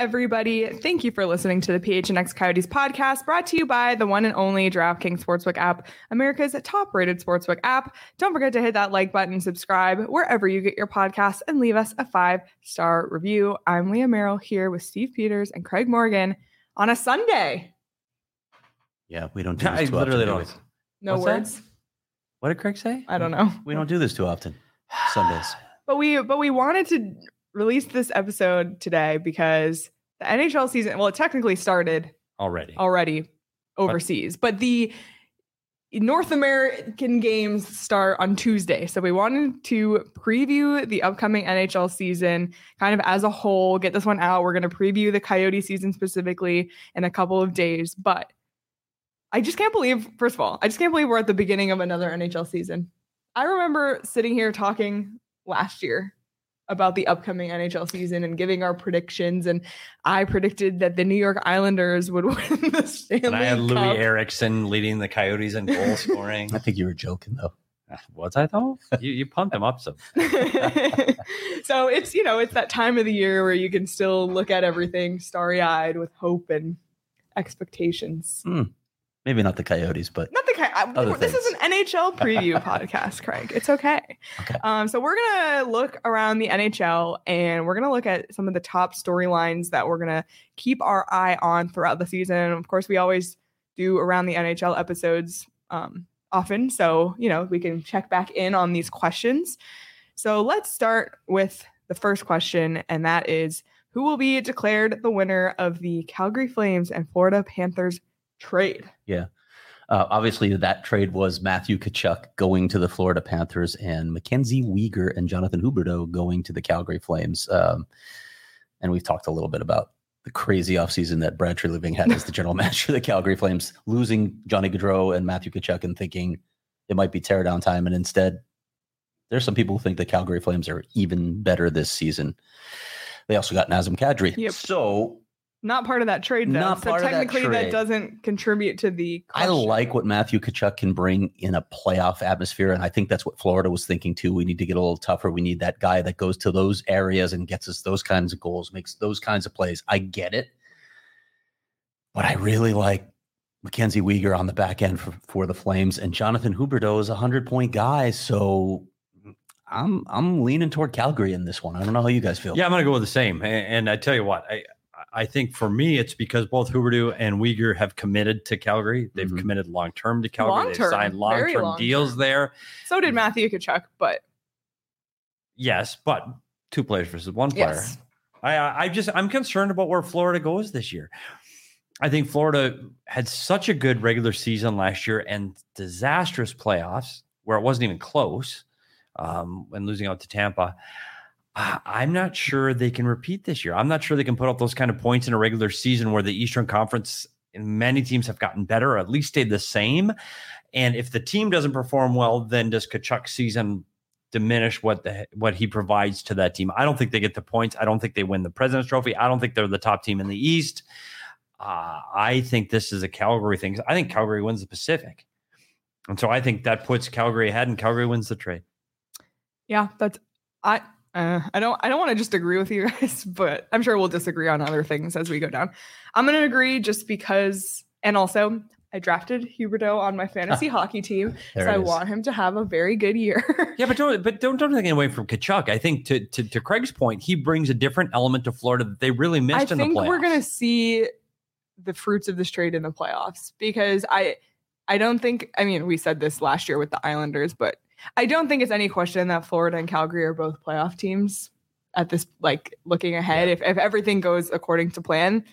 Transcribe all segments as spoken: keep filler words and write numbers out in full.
everybody. Thank you for listening to the P H N X Coyotes podcast, brought to you by the one and only DraftKings Sportsbook app, America's top-rated sportsbook app. Don't forget to hit that like button, subscribe wherever you get your podcasts, and leave us a five-star review. I'm Leah Merrill here with Steve Peters and Craig Morgan on a Sunday. Yeah, we don't do this I too literally often. don't. No What's words. that? What did Craig say? I don't know. We don't do this too often. Sundays. But we but we wanted to release this episode today because the N H L season, well, it technically started Already. already overseas, but, but the North American games start on Tuesday. So we wanted to preview the upcoming N H L season kind of as a whole, get this one out. We're going to preview the Coyote season specifically in a couple of days. But I just can't believe, first of all, I just can't believe we're at the beginning of another N H L season. I remember sitting here talking last year about the upcoming N H L season and giving our predictions. And I predicted that the New York Islanders would win the Stanley And I had Louis Cup. Eriksson leading the Coyotes in goal scoring. I think you were joking, though. Was I though? You, you pumped him up some. So it's, you know, it's that time of the year where you can still look at everything starry-eyed with hope and expectations. Hmm. Maybe not the Coyotes, but Not the kind. Other This is things. an N H L preview podcast, Craig. It's okay. Okay. Um, so we're gonna look around the N H L and we're gonna look at some of the top storylines that we're gonna keep our eye on throughout the season. Of course, we always do around the N H L episodes um, often, so you know we can check back in on these questions. So let's start with the first question, and that is: who will be declared the winner of the Calgary Flames and Florida Panthers trade? yeah. Uh, obviously, that trade was Matthew Tkachuk going to the Florida Panthers and Mackenzie Weegar and Jonathan Huberdeau going to the Calgary Flames. Um, and we've talked a little bit about the crazy offseason that Brad Treliving had as the general manager of the Calgary Flames, losing Johnny Gaudreau and Matthew Tkachuk and thinking it might be tear down time. And instead, there's some people who think the Calgary Flames are even better this season. They also got Nazem Kadri. Yep. So Not part of that trade, though. Not so part of that technically, that, trade. doesn't contribute to the I question. like what Matthew Tkachuk can bring in a playoff atmosphere, and I think that's what Florida was thinking too. We need to get a little tougher. We need that guy that goes to those areas and gets us those kinds of goals, makes those kinds of plays. I get it, but I really like Mackenzie Weegar on the back end for, for the Flames, and Jonathan Huberdeau is a hundred-point guy, so I'm I'm leaning toward Calgary in this one. I don't know how you guys feel. Yeah, I'm going to go with the same. And, and I tell you what, I I think for me, it's because both Huberdeau and Weegar have committed to Calgary. They've Mhm. committed long-term to Calgary. Long-term, They've signed very long-term long-term. deals there. So did Matthew Tkachuk, but Yes, but two players versus one player. yes. I, I just, I'm concerned about where Florida goes this year. I think Florida had such a good regular season last year and disastrous playoffs where it wasn't even close, um, when losing out to Tampa. I- I'm not sure they can repeat this year. I'm not sure they can put up those kind of points in a regular season where the Eastern Conference and many teams have gotten better or at least stayed the same. And if the team doesn't perform well, then does Tkachuk's season diminish what the what he provides to that team? I don't think they get the points. I don't think they win the President's Trophy. I don't think they're the top team in the East. Uh, I think this is a Calgary thing. I think Calgary wins the Pacific. And so I think that puts Calgary ahead and Calgary wins the trade. Yeah, that's I. Uh, I don't. I don't want to just agree with you guys, but I'm sure we'll disagree on other things as we go down. I'm going to agree just because, and also I drafted Huberdeau on my fantasy hockey team, There so it I is. want him to have a very good year. Yeah, but don't but don't don't take it away from Tkachuk. I think to, to to Craig's point, he brings a different element to Florida that they really I missed in the think playoffs. we're going to see the fruits of this trade in the playoffs because I, I don't think. I mean, we said this last year with the Islanders, but I don't think it's any question that Florida and Calgary are both playoff teams at this, like looking ahead. Yeah. If if everything goes according to plan,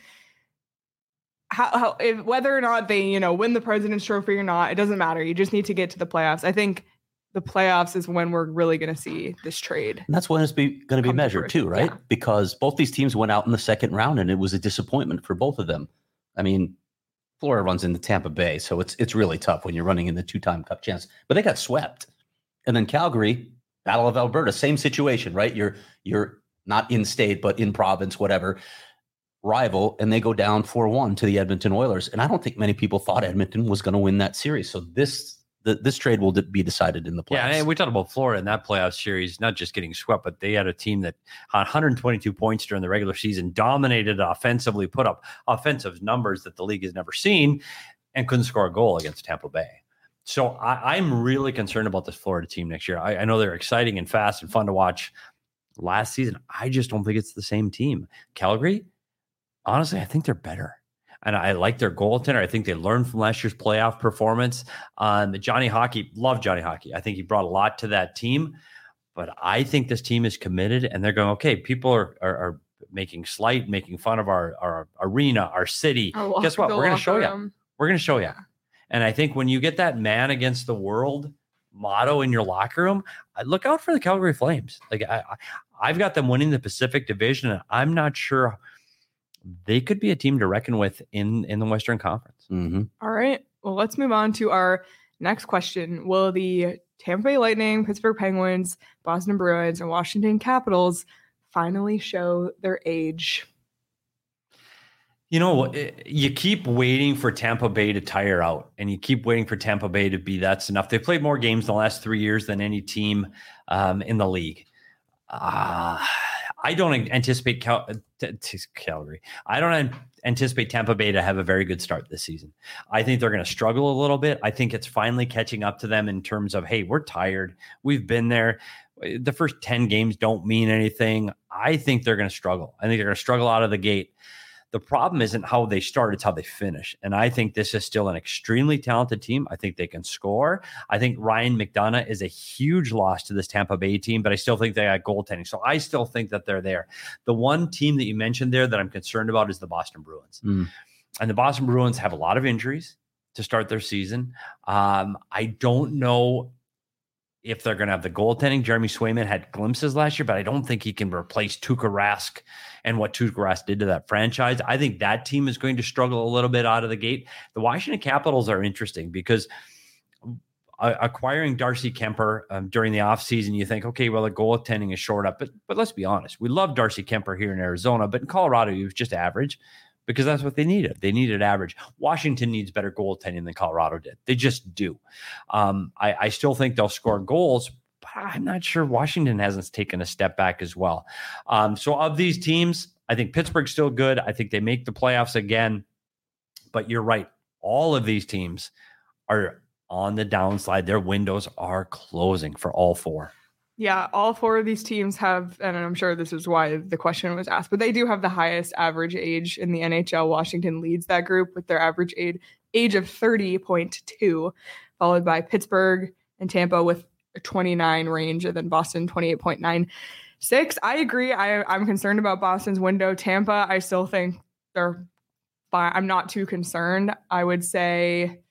how, how if, whether or not they, you know, win the President's Trophy or not, it doesn't matter. You just need to get to the playoffs. I think the playoffs is when we're really going to see this trade. And that's when it's be, going to be Come to measured fruition, too, right? yeah. Because both these teams went out in the second round, and it was a disappointment for both of them. I mean, Florida runs into Tampa Bay, so it's it's really tough when you're running in the two-time Cup chance. But they got swept, and then Calgary, Battle of Alberta, same situation, right? You're you're not in state, but in province, whatever, rival, and they go down four one to the Edmonton Oilers. And I don't think many people thought Edmonton was going to win that series. So this the, this trade will be decided in the playoffs. Yeah, and we talked about Florida in that playoff series, not just getting swept, but they had a team that had one hundred twenty-two points during the regular season, dominated offensively, put up offensive numbers that the league has never seen, and couldn't score a goal against Tampa Bay. So I, I'm really concerned about this Florida team next year. I, I know they're exciting and fast and fun to watch. Last season, I just don't think it's the same team. Calgary, honestly, I think they're better. And I like their goaltender. I think they learned from last year's playoff performance. Um, Johnny Hockey, love Johnny Hockey. I think he brought a lot to that team. But I think this team is committed, and they're going, okay, people are are, are making slight, making fun of our, our arena, our city. Our Guess what? We're going to show room. you. We're going to show you. And I think when you get that man against the world motto in your locker room, look out for the Calgary Flames. Like I, I've got them winning the Pacific Division, and I'm not sure they could be a team to reckon with in, in the Western Conference. Mm-hmm. All right. Well, let's move on to our next question. Will the Tampa Bay Lightning, Pittsburgh Penguins, Boston Bruins, and Washington Capitals finally show their age? You know, you keep waiting for Tampa Bay to tire out, and you keep waiting for Tampa Bay to be that's enough. They've played more games in the last three years than any team um, in the league. Uh, I don't anticipate Cal- t- t- Calgary. I don't an- anticipate Tampa Bay to have a very good start this season. I think they're going to struggle a little bit. I think it's finally catching up to them in terms of, hey, we're tired. We've been there. The first ten games don't mean anything. I think they're going to struggle. I think they're going to struggle out of the gate. The problem isn't how they start, it's how they finish. And I think this is still an extremely talented team. I think they can score. I think Ryan McDonough is a huge loss to this Tampa Bay team, but I still think they got goaltending. So I still think that they're there. The one team that you mentioned there that I'm concerned about is the Boston Bruins. Mm. And the Boston Bruins have a lot of injuries to start their season. Um, I don't know if they're going to have the goaltending. Jeremy Swayman had glimpses last year, but I don't think he can replace Tuukka Rask and what Tuukka Rask did to that franchise. I think that team is going to struggle a little bit out of the gate. The Washington Capitals are interesting because uh, acquiring Darcy Kemper um, during the offseason, you think, okay, well, the goaltending is short up. But, but let's be honest. We love Darcy Kemper here in Arizona, but in Colorado, he was just average because that's what they needed. They needed average. Washington needs better goaltending than Colorado did. They just do. Um, I, I still think they'll score goals, but I'm not sure Washington hasn't taken a step back as well. Um, so of these teams, I think Pittsburgh's still good. I think they make the playoffs again. But you're right. All of these teams are on the downside. Their windows are closing for all four. Yeah, all four of these teams have, and I'm sure this is why the question was asked, but they do have the highest average age in the N H L. Washington leads that group with their average age, age of thirty point two, followed by Pittsburgh and Tampa with a twenty-nine range, and then Boston twenty-eight point nine six. I agree. I, I'm concerned about Boston's window. Tampa, I still think they're fine. I'm not too concerned. I would say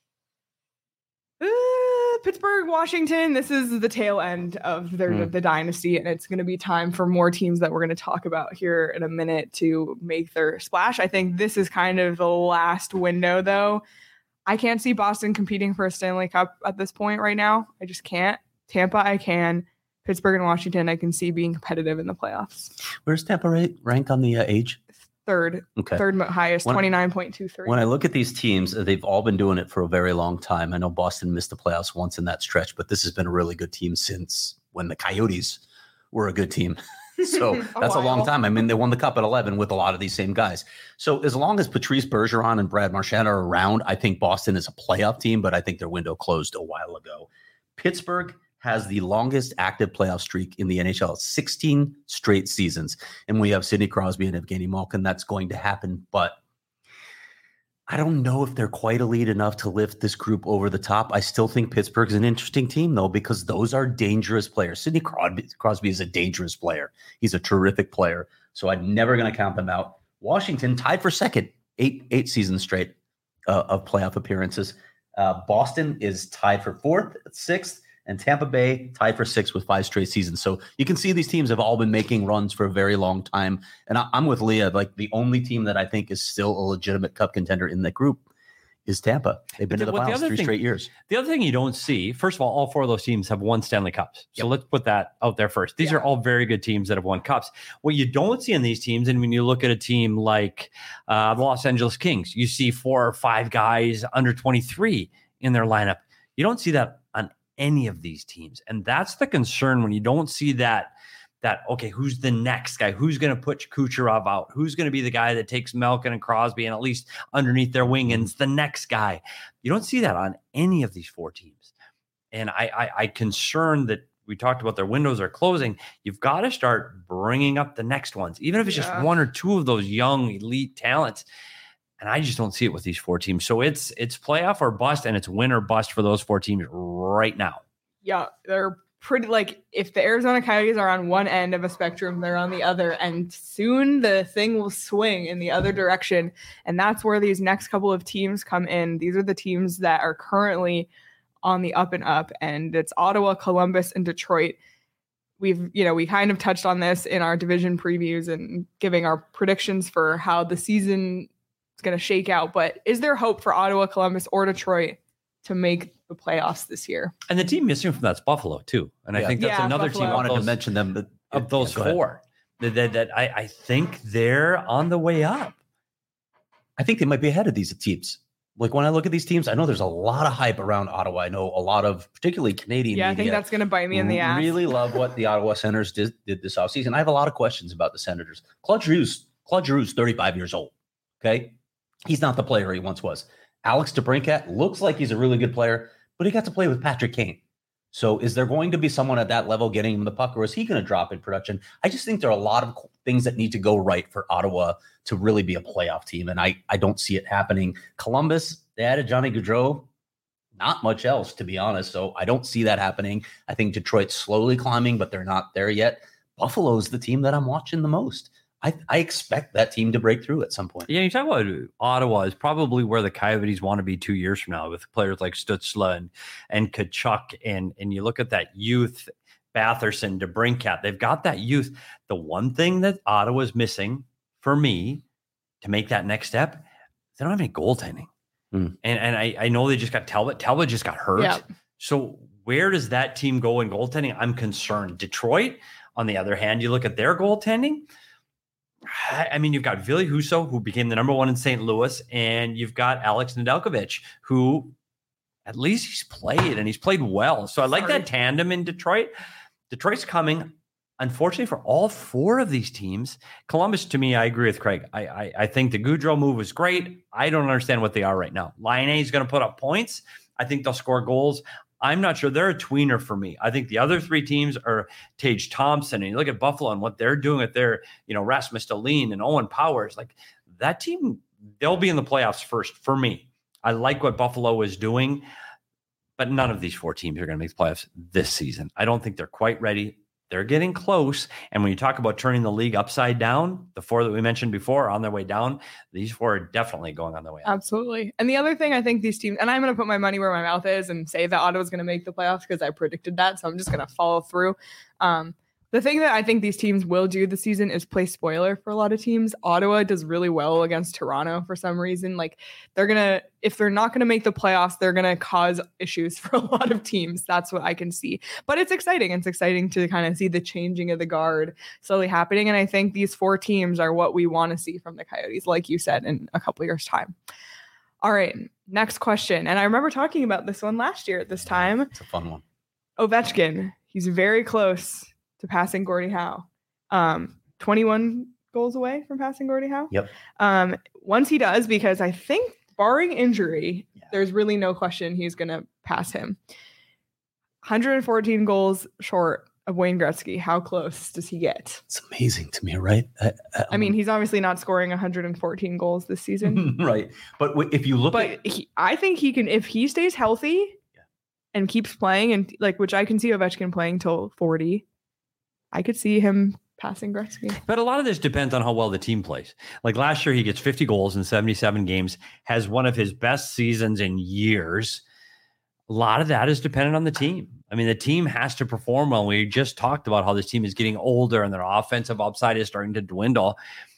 uh, Pittsburgh, Washington, this is the tail end of their mm. the dynasty, and it's going to be time for more teams that we're going to talk about here in a minute to make their splash. I think this is kind of the last window, though. I can't see Boston competing for a Stanley Cup at this point right now. I just can't. Tampa, I can. Pittsburgh and Washington, I can see being competitive in the playoffs. Where's Tampa rank on the uh, age? Third. Okay. Third highest, twenty-nine point two three. When I look at these teams, they've all been doing it for a very long time. I know Boston missed the playoffs once in that stretch, but this has been a really good team since when the Coyotes were a good team. So a that's while. a long time. I mean, they won the Cup at eleven with a lot of these same guys. So as long as Patrice Bergeron and Brad Marchand are around, I think Boston is a playoff team, but I think their window closed a while ago. Pittsburgh has the longest active playoff streak in the N H L, sixteen straight seasons. And we have Sidney Crosby and Evgeny Malkin. That's going to happen. But I don't know if they're quite elite enough to lift this group over the top. I still think Pittsburgh's an interesting team, though, because those are dangerous players. Sidney Crosby, Crosby is a dangerous player. He's a terrific player. So I'm never going to count them out. Washington tied for second, eight, eight seasons straight uh, of playoff appearances. Uh, Boston is tied for fourth, sixth. And Tampa Bay tied for sixth with five straight seasons. So you can see these teams have all been making runs for a very long time. And I, I'm with Leah. Like the only team that I think is still a legitimate cup contender in that group is Tampa. They've been to the well, finals the three thing, straight years. The other thing you don't see, first of all, all four of those teams have won Stanley Cups. So yep. let's put that out there first. These yeah. are all very good teams that have won cups. What you don't see in these teams, and when you look at a team like uh, the Los Angeles Kings, you see four or five guys under twenty-three in their lineup. You don't see that any of these teams. And that's the concern when you don't see that, that, okay, who's the next guy? Who's going to put Kucherov out? Who's going to be the guy that takes Malkin and Crosby and at least underneath their wing and it's the next guy? You don't see that on any of these four teams. And I, I, I concerned that we talked about their windows are closing. You've got to start bringing up the next ones, even if it's yeah. just one or two of those young elite talents. And I just don't see it with these four teams. So it's it's playoff or bust, and it's win or bust for those four teams right now. Yeah, they're pretty like if the Arizona Coyotes are on one end of a spectrum, they're on the other, and soon the thing will swing in the other direction. And that's where these next couple of teams come in. These are the teams that are currently on the up and up, and it's Ottawa, Columbus, and Detroit. We've, you know, we kind of touched on this in our division previews and giving our predictions for how the season is going to shake out. But is there hope for Ottawa, Columbus, or Detroit to make the playoffs this year? And the team missing from that's Buffalo too. And yeah. I think that's yeah, another Buffalo. team. I wanted those, to mention them, but of those yeah, four that, that, that I, I think they're on the way up. I think they might be ahead of these teams. Like when I look at these teams, I know there's a lot of hype around Ottawa. I know a lot of particularly Canadian yeah, media. I think that's going to bite me in the ass. Really love what the Ottawa Senators did, did this offseason. I have a lot of questions about the Senators. Claude Giroux's, Claude Giroux's thirty-five years old. Okay. He's not the player he once was. Alex DeBrincat looks like he's a really good player, but he got to play with Patrick Kane. So is there going to be someone at that level getting him the puck, or is he going to drop in production? I just think there are a lot of things that need to go right for Ottawa to really be a playoff team, and I, I don't see it happening. Columbus, they added Johnny Gaudreau. Not much else, to be honest. So I don't see that happening. I think Detroit's slowly climbing, but they're not there yet. Buffalo's the team that I'm watching the most. I, I expect that team to break through at some point. Yeah, you talk about Ottawa is probably where the Coyotes want to be two years from now with players like Stützle and, and Tkachuk. And, and you look at that youth, Batherson, DeBrincat, they've got that youth. The one thing that Ottawa's missing for me to make that next step, they don't have any goaltending. Mm. And, and I, I know they just got Talbot. Talbot just got hurt. Yeah. So where does that team go in goaltending? I'm concerned. Detroit, on the other hand, you look at their goaltending, I mean, you've got Ville Husso, who became the number one in Saint Louis, and you've got Alex Nedeljkovic, who at least he's played, and he's played well. So I like Sorry. that tandem in Detroit. Detroit's coming. Unfortunately for all four of these teams, Columbus, to me, I agree with Craig. I I, I think the Gaudreau move was great. I don't understand what they are right now. Laine is going to put up points. I think they'll score goals. I'm not sure. They're a tweener for me. I think the other three teams are Tage Thompson, and you look at Buffalo and what they're doing with their, you know, Rasmus Dahlin and Owen Powers. Like that team, they'll be in the playoffs first for me. I like what Buffalo is doing, but none of these four teams are going to make the playoffs this season. I don't think they're quite ready. They're getting close. And when you talk about turning the league upside down, the four that we mentioned before are on their way down. These four are definitely going on their way up. Absolutely. And the other thing I think these teams, and I'm going to put my money where my mouth is and say that Ottawa's going to make the playoffs because I predicted that. So I'm just going to follow through. Um, The thing that I think these teams will do this season is play spoiler for a lot of teams. Ottawa does really well against Toronto for some reason. Like they're going to, if they're not going to make the playoffs, they're going to cause issues for a lot of teams. That's what I can see. But it's exciting. It's exciting to kind of see the changing of the guard slowly happening. And I think these four teams are what we want to see from the Coyotes, like you said, in a couple years' time. All right, next question. And I remember talking about this one last year at this time. It's a fun one. Ovechkin. He's very close to passing Gordie Howe. Um, twenty-one goals away from passing Gordie Howe. Yep. Um, once he does, because I think barring injury, yeah. there's really no question he's going to pass him. one hundred fourteen goals short of Wayne Gretzky. How close does he get? It's amazing to me, right? I, I, I mean, he's obviously not scoring one hundred fourteen goals this season. Right. But w- if you look but at... he, I think he can, if he stays healthy yeah. and keeps playing, and like, which I can see Ovechkin playing till forty, I could see him passing Gretzky. But a lot of this depends on how well the team plays. Like last year, he gets fifty goals in seventy-seven games, has one of his best seasons in years. A lot of that is dependent on the team. I mean, the team has to perform well. We just talked about how this team is getting older and their offensive upside is starting to dwindle.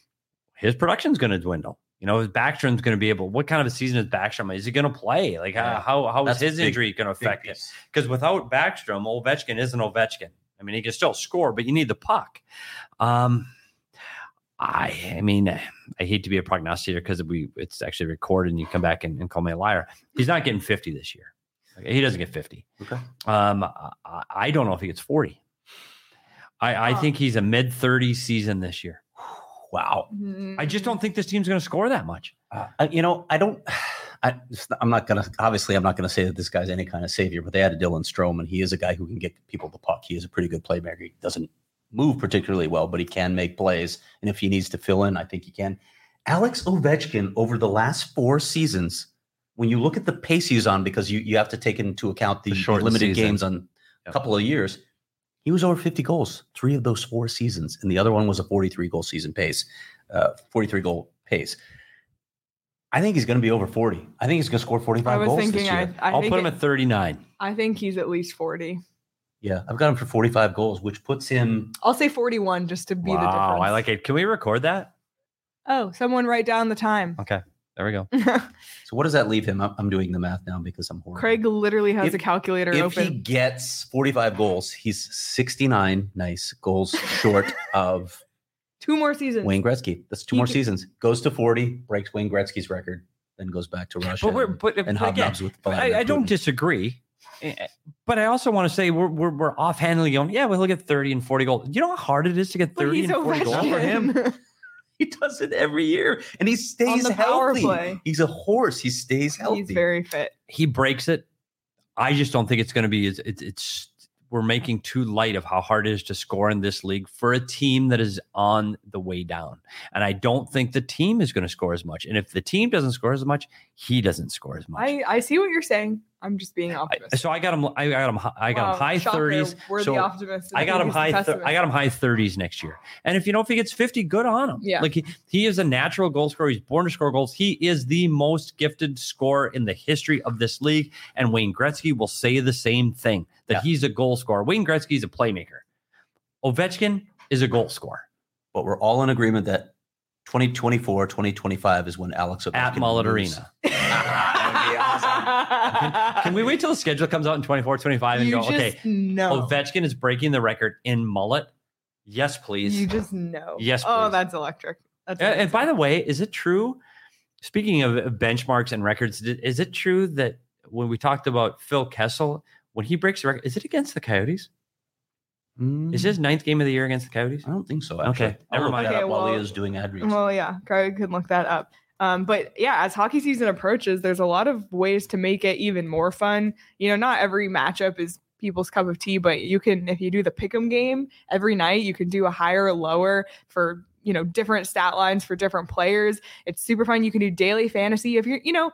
His production is going to dwindle. You know, Backstrom's going to be able, what kind of a season is Backstrom? Is he going to play? Like yeah. how, how is his big, injury going to affect it? Because without Backstrom, Ovechkin isn't Ovechkin. I mean, he can still score, but you need the puck. Um, I, I mean, I hate to be a prognosticator because we it's actually recorded and you come back and, and call me a liar. He's not getting fifty this year. He doesn't get fifty. Okay. Um, I, I don't know if he gets forty. I, I Oh. think he's a mid thirties season this year. Wow. I just don't think this team's going to score that much. Uh, you know, I don't. I, I'm not gonna. Obviously, I'm not gonna say that this guy's any kind of savior. But they had a Dylan Strome, and he is a guy who can get people the puck. He is a pretty good playmaker. He doesn't move particularly well, but he can make plays. And if he needs to fill in, I think he can. Alex Ovechkin, over the last four seasons, when you look at the pace he's on, because you you have to take into account the, The the shortened limited season. games on Yep. a couple of years, he was over fifty goals three of those four seasons, and the other one was a forty-three goal season pace, uh, forty-three goal pace. I think he's going to be over forty. I think he's going to score I forty-five was goals thinking. this I, year. I I'll think put him it- at thirty-nine. I think he's at least forty. Yeah, I've got him for forty-five goals, which puts him. I'll say forty-one just to be the Wow, difference. I like it. Can we record that? Oh, someone write down the time. Okay, there we go. So what does that leave him? I'm, I'm doing the math now because I'm horrible. Craig literally has If- a calculator if open. he gets forty-five goals, he's sixty-nine nice goals short of Two more seasons. Wayne Gretzky. That's two He more could- seasons. Goes to forty, breaks Wayne Gretzky's record, then goes back to Russia. But we're and- but, and but again, hobnobs with I, Vladimir I don't Putin. disagree. Eh, But I also want to say we're we're, we're offhandedly going, yeah, we'll get thirty and forty goals. You know how hard it is to get But thirty he's and forty goals for him? Ovechkin. He does it every year, and he stays the power healthy. play. He's a horse. He stays healthy. He's very fit. He breaks it. I just don't think it's going to be. It's, it's it's we're making too light of how hard it is to score in this league for a team that is on the way down. And I don't think the team is going to score as much. And if the team doesn't score as much, he doesn't score as much. I, I see what you're saying. I'm just being I- optimistic. so I got him. I got him. hi- I got Wow, him high shocker. thirties. We're so the optimists. I got him He's the high. Th- pessimist. I got him high thirties next year. And if you know if he gets fifty, good on him. Yeah. like he, he is a natural goal scorer. He's born to score goals. He is the most gifted scorer in the history of this league. And Wayne Gretzky will say the same thing that Yeah. he's a goal scorer. Wayne Gretzky is a playmaker. Ovechkin is a goal scorer. But we're all in agreement that twenty twenty-four, twenty twenty-five is when Alex Ovechkin At Mullet moves. Arena. That would be awesome. Can we wait till the schedule comes out in twenty-four, twenty-five and you go, just okay, know. Ovechkin is breaking the record in mullet? Yes, please. You just know. Yes, Oh, please. that's electric. That's And, and by amazing. the way, is it true? Speaking of benchmarks and records, did- is it true that when we talked about Phil Kessel, when he breaks the record, is it against the Coyotes? Mm, Is his ninth game of the year against the Coyotes? I don't think so. Actually. Okay, I'll never look mind. that Okay, up while well- Leah's doing ad reads. Well, yeah, Craig could look that up. Um, but yeah, as hockey season approaches, there's a lot of ways to make it even more fun. You know, not every matchup is people's cup of tea, but you can, if you do the pick'em game every night, you can do a higher or lower for, you know, different stat lines for different players. It's super fun. You can do daily fantasy if you're, you know,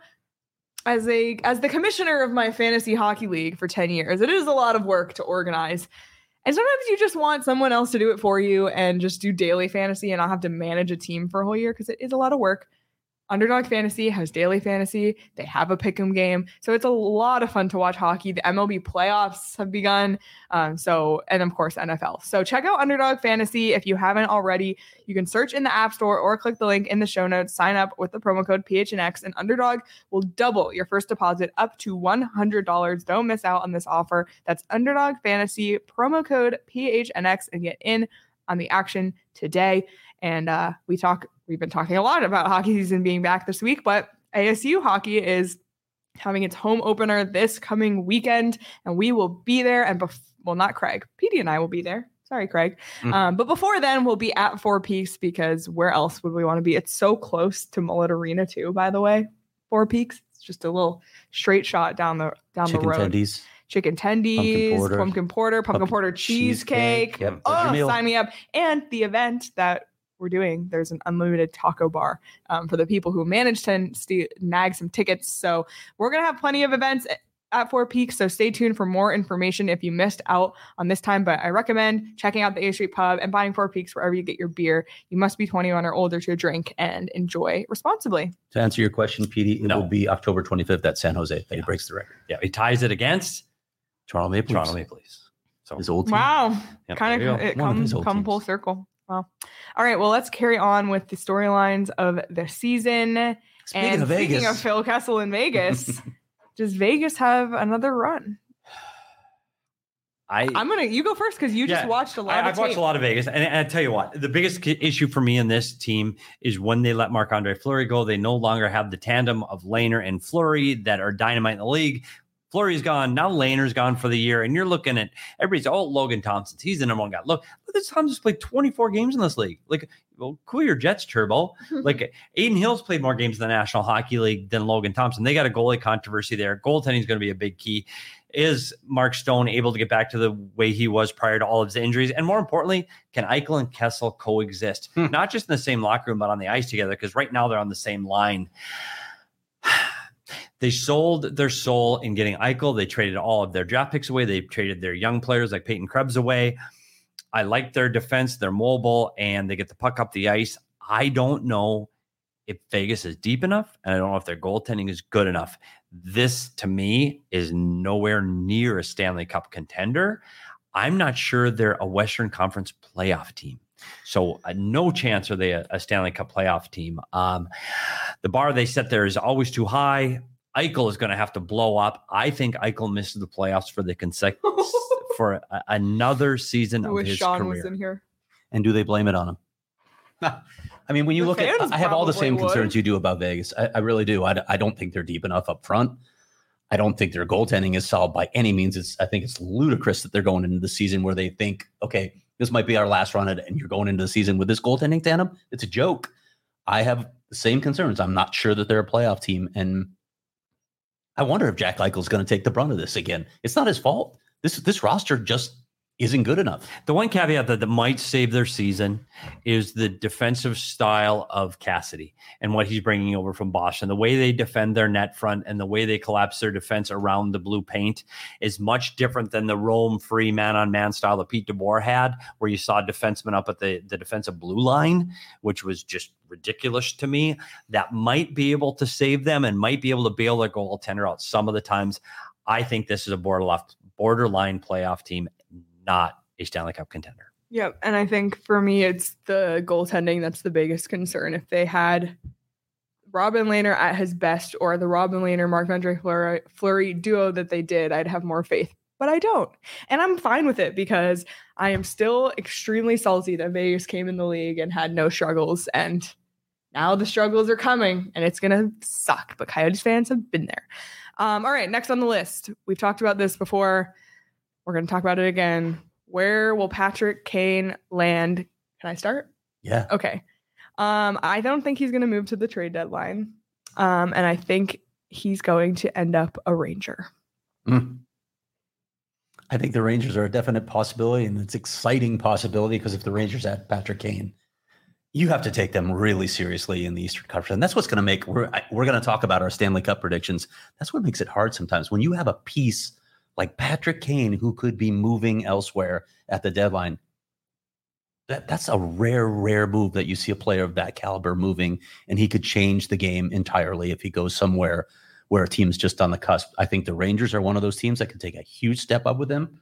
as a as the commissioner of my fantasy hockey league for ten years, it is a lot of work to organize. And sometimes you just want someone else to do it for you and just do daily fantasy and not have to manage a team for a whole year because it is a lot of work. Underdog Fantasy has daily fantasy. They have a pick'em game. So it's a lot of fun to watch hockey. The M L B playoffs have begun. Um, so, and of course, N F L. So check out Underdog Fantasy. If you haven't already, you can search in the App Store or click the link in the show notes. Sign up with the promo code P H N X and Underdog will double your first deposit up to one hundred dollars. Don't miss out on this offer. That's Underdog Fantasy, promo code P H N X, and get in on the action today. And uh, we talk, we've been talking a lot about hockey season being back this week, but A S U hockey is having its home opener this coming weekend, and we will be there. And bef- well, not Craig, Petey and I will be there. Sorry, Craig. Mm. Um, but before then, we'll be at Four Peaks because where else would we want to be? It's so close to Mullet Arena too, by the way. Four Peaks. It's just a little straight shot down the down Chicken the road. tendies. Chicken Pumpkin tendies, porter. pumpkin porter, pumpkin, Pumpkin porter cheesecake. cheesecake. Yep, that's your Oh, meal. sign me up. And the event that we're doing, there's an unlimited taco bar um, for the people who managed to st- nag some tickets. So we're going to have plenty of events at, at Four Peaks. So stay tuned for more information if you missed out on this time. But I recommend checking out the A Street Pub and buying Four Peaks wherever you get your beer. You must be twenty-one or older to drink and enjoy responsibly. To answer your question, Petey, it No. will be October twenty-fifth at San Jose that he breaks the record. Yeah, he ties it against Toronto Maple Toronto Leafs. Maple Leafs. So His old team. Wow. Yep, kind there of you go. it One of come, his old come full teams. circle. Wow. All right. Well, let's carry on with the storylines of the season. Speaking and of Vegas, speaking of Phil Kessel in Vegas, does Vegas have another run? I I'm gonna you go first because you just Yeah, watched a lot I, of I've watched tape. a lot of Vegas, and, and I tell you what, the biggest ki- issue for me in this team is when they let Marc-Andre Fleury go. They no longer have the tandem of Lehner and Fleury that are dynamite in the league. Fleury's gone. Now Lehner's gone for the year. And you're looking at everybody's, oh, Logan Thompson. He's the number one guy. Look, look at Thompson's played twenty-four games in this league. Like, well, cool your Jets, Turbo. Like, Aiden Hill's played more games in the National Hockey League than Logan Thompson. They got a goalie controversy there. Goaltending is going to be a big key. Is Mark Stone able to get back to the way he was prior to all of his injuries? And more importantly, can Eichel and Kessel coexist? Hmm. Not just in the same locker room, but on the ice together, because right now they're on the same line. They sold their soul in getting Eichel. They traded all of their draft picks away. They traded their young players like Peyton Krebs away. I like their defense. They're mobile, and they get the puck up the ice. I don't know if Vegas is deep enough, and I don't know if their goaltending is good enough. This, to me, is nowhere near a Stanley Cup contender. I'm not sure they're a Western Conference playoff team. So uh, no chance are they a, a Stanley Cup playoff team. Um, the bar they set there is always too high. Eichel is going to have to blow up. I think Eichel misses the playoffs for the consec- for a, another season I of wish his Sean career. was in here. And do they blame it on him? I mean, when you The look at, fans I have all the probably same would. concerns you do about Vegas. I, I really do. I, I don't think they're deep enough up front. I don't think their goaltending is solid by any means. It's I think it's ludicrous that they're going into the season where they think, okay, this might be our last run at it, and you're going into the season with this goaltending tandem. It's a joke. I have the same concerns. I'm not sure that they're a playoff team, and I wonder if Jack Eichel is going to take the brunt of this again. It's not his fault. This this roster just isn't good enough. The one caveat that, that might save their season is the defensive style of Cassidy and what he's bringing over from Boston. The way they defend their net front and the way they collapse their defense around the blue paint is much different than the roam free man-on-man style that Pete DeBoer had, where you saw defensemen up at the, the defensive blue line, which was just ridiculous to me. That might be able to save them and might be able to bail their goaltender out some of the times. I think this is a borderline playoff team, not a Stanley Cup contender. Yep. And I think for me, it's the goaltending that's the biggest concern. If they had Robin Lehner at his best or the Robin Lehner, Marc-Andre Fleury, Fleury duo that they did, I'd have more faith. But I don't. And I'm fine with it because I am still extremely salty that Vegas came in the league and had no struggles. And now the struggles are coming and it's going to suck. But Coyotes fans have been there. Um, all right. Next on the list. We've talked about this before. We're going to talk about it again. Where will Patrick Kane land? Can I start? Yeah. Okay. Um, I don't think he's going to move to the trade deadline. Um, and I think he's going to end up a Ranger. Mm. I think the Rangers are a definite possibility, and it's exciting possibility because if the Rangers add Patrick Kane, you have to take them really seriously in the Eastern Conference. And that's what's going to make, we're, we're going to talk about our Stanley Cup predictions. That's what makes it hard sometimes. When you have a piece like Patrick Kane, who could be moving elsewhere at the deadline, that, that's a rare, rare move that you see a player of that caliber moving, and he could change the game entirely if he goes somewhere where a team's just on the cusp. I think the Rangers are one of those teams that can take a huge step up with him.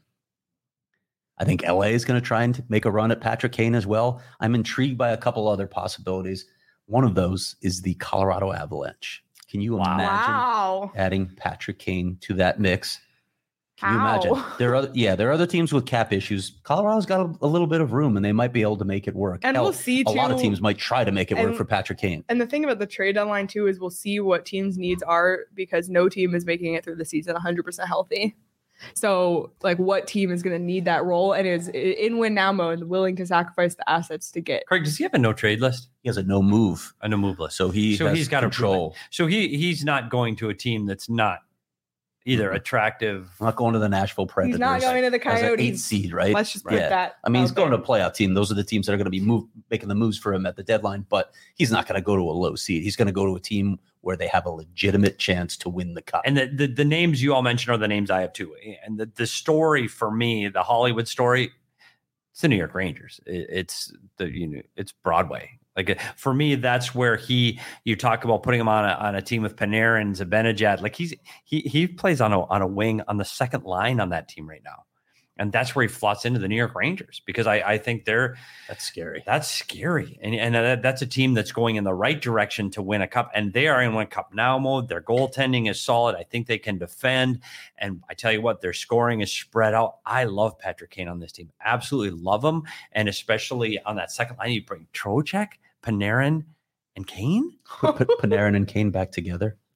I think L A is going to try and make a run at Patrick Kane as well. I'm intrigued by a couple other possibilities. One of those is the Colorado Avalanche. Can you Wow. imagine Wow. adding Patrick Kane to that mix? Can you How? imagine? There are other, yeah, there are other teams with cap issues. Colorado's got a, a little bit of room, and they might be able to make it work. And Hell, we'll see, a lot of too- teams might try to make it work and- for Patrick Kane. And the thing about the trade deadline, too, is we'll see what teams' needs are because no team is making it through the season one hundred percent healthy. So, like, what team is going to need that role and is in win now mode, willing to sacrifice the assets to get? Craig, does he have a no trade list? He has a no move, A no move list. so he So has he's got to prove control. So he he's not going to a team that's not either attractive. I'm not going to the Nashville Predators. He's not going to the as an eight Coyotes. seed, right? Let's just put Yeah. that. I mean, he's out going there. to a playoff team. Those are the teams that are going to be move, making the moves for him at the deadline, but he's not going to go to a low seed. He's going to go to a team where they have a legitimate chance to win the cup. And the, the the names you all mentioned are the names I have too. And the, the story for me, the Hollywood story, it's the New York Rangers. It, it's the you know it's Broadway. Like for me, that's where he. You talk about putting him on a on a team with Panarin, Zibanejad. Like he's he he plays on a on a wing on the second line on that team right now, and that's where he slots into the New York Rangers because I I think they're That's scary. that's scary, and and that, that's a team that's going in the right direction to win a cup, and they are in one cup now mode. Their goaltending is solid. I think they can defend, and I tell you what, their scoring is spread out. I love Patrick Kane on this team, absolutely love him, and especially on that second line, you bring Trocheck, Panarin, and Kane. Put Panarin and Kane back together.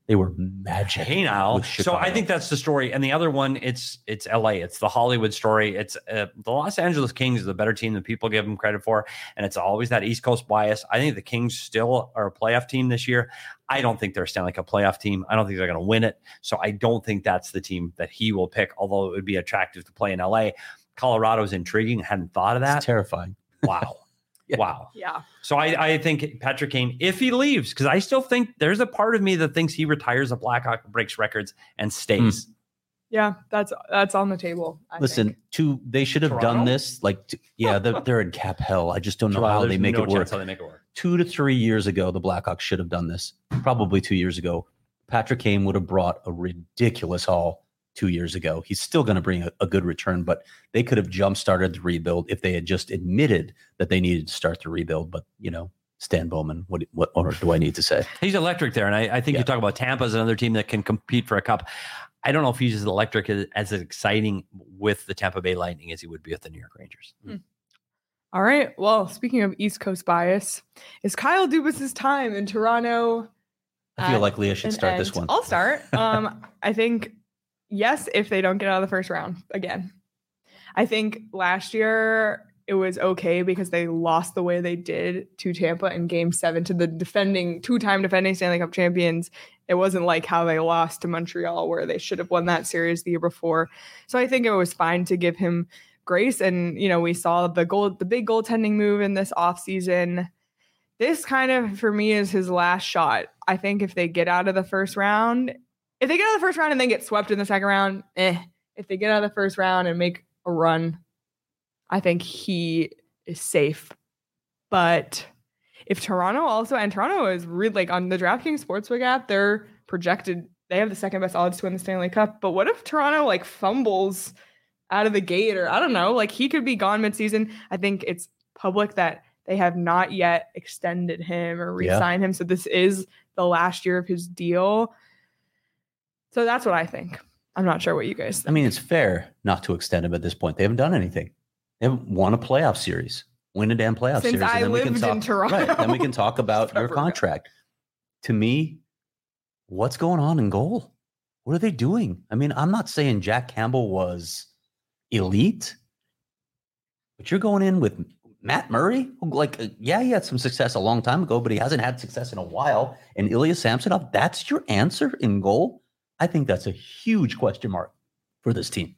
They were magic. Hey now, with so Chicago. I think that's the story. And the other one, it's it's L A. It's the Hollywood story. It's uh, the Los Angeles Kings is a better team than people give them credit for, and it's always that East Coast bias. I think the Kings still are a playoff team this year. I don't think they're a Stanley Cup playoff team. I don't think they're going to win it. So I don't think that's the team that he will pick. Although it would be attractive to play in L A. Colorado is intriguing. I hadn't thought of that. It's terrifying. Wow. Yeah. Wow. Yeah. So I, I think Patrick Kane, if he leaves, because I still think there's a part of me that thinks he retires a Blackhawk, breaks records, and stays. Mm. Yeah, that's that's on the table. I Listen, think. to they should have Toronto? done this. Like, to, yeah, they're, they're in cap hell. I just don't know how There's they make no it work. chance how they make it work. Two to three years ago, the Blackhawks should have done this. Probably two years ago, Patrick Kane would have brought a ridiculous haul. Two years ago, he's still going to bring a, a good return, but they could have jump started the rebuild if they had just admitted that they needed to start the rebuild. But you know, Stan Bowman, what what or do I need to say? He's electric there, and I, I think Yeah. you talk about Tampa as another team that can compete for a cup. I don't know if he's as electric as, as exciting with the Tampa Bay Lightning as he would be with the New York Rangers. All right. Well, speaking of East Coast bias, is Kyle Dubas's time in Toronto? I feel at like Leah should an start this end? one. I'll start. Um, I think yes, if they don't get out of the first round again. I think last year it was okay because they lost the way they did to Tampa in game seven to the defending two-time defending Stanley Cup champions. It wasn't like how they lost to Montreal where they should have won that series the year before. So I think it was fine to give him grace. And, you know, we saw the goal, the big goaltending move in this offseason. This kind of, for me, is his last shot. I think if they get out of the first round, if they get out of the first round and then get swept in the second round, eh. If they get out of the first round and make a run, I think he is safe. But if Toronto also, and Toronto is really like on the DraftKings Sportsbook app, they're projected, they have the second best odds to win the Stanley Cup. But what if Toronto like fumbles out of the gate, or I don't know, like he could be gone midseason? I think it's public that they have not yet extended him or re-signed yeah. him. So this is the last year of his deal. So that's what I think. I'm not sure what you guys think. I mean, it's fair not to extend him at this point. They haven't done anything. They haven't won a playoff series. Win a damn playoff Since series. I and then lived we can talk, in Toronto. Right, then we can talk about your contract. To me, what's going on in goal? What are they doing? I mean, I'm not saying Jack Campbell was elite, but you're going in with Matt Murray, who, like, uh, yeah, he had some success a long time ago, but he hasn't had success in a while. And Ilya Samsonov, that's your answer in goal? I think that's a huge question mark for this team.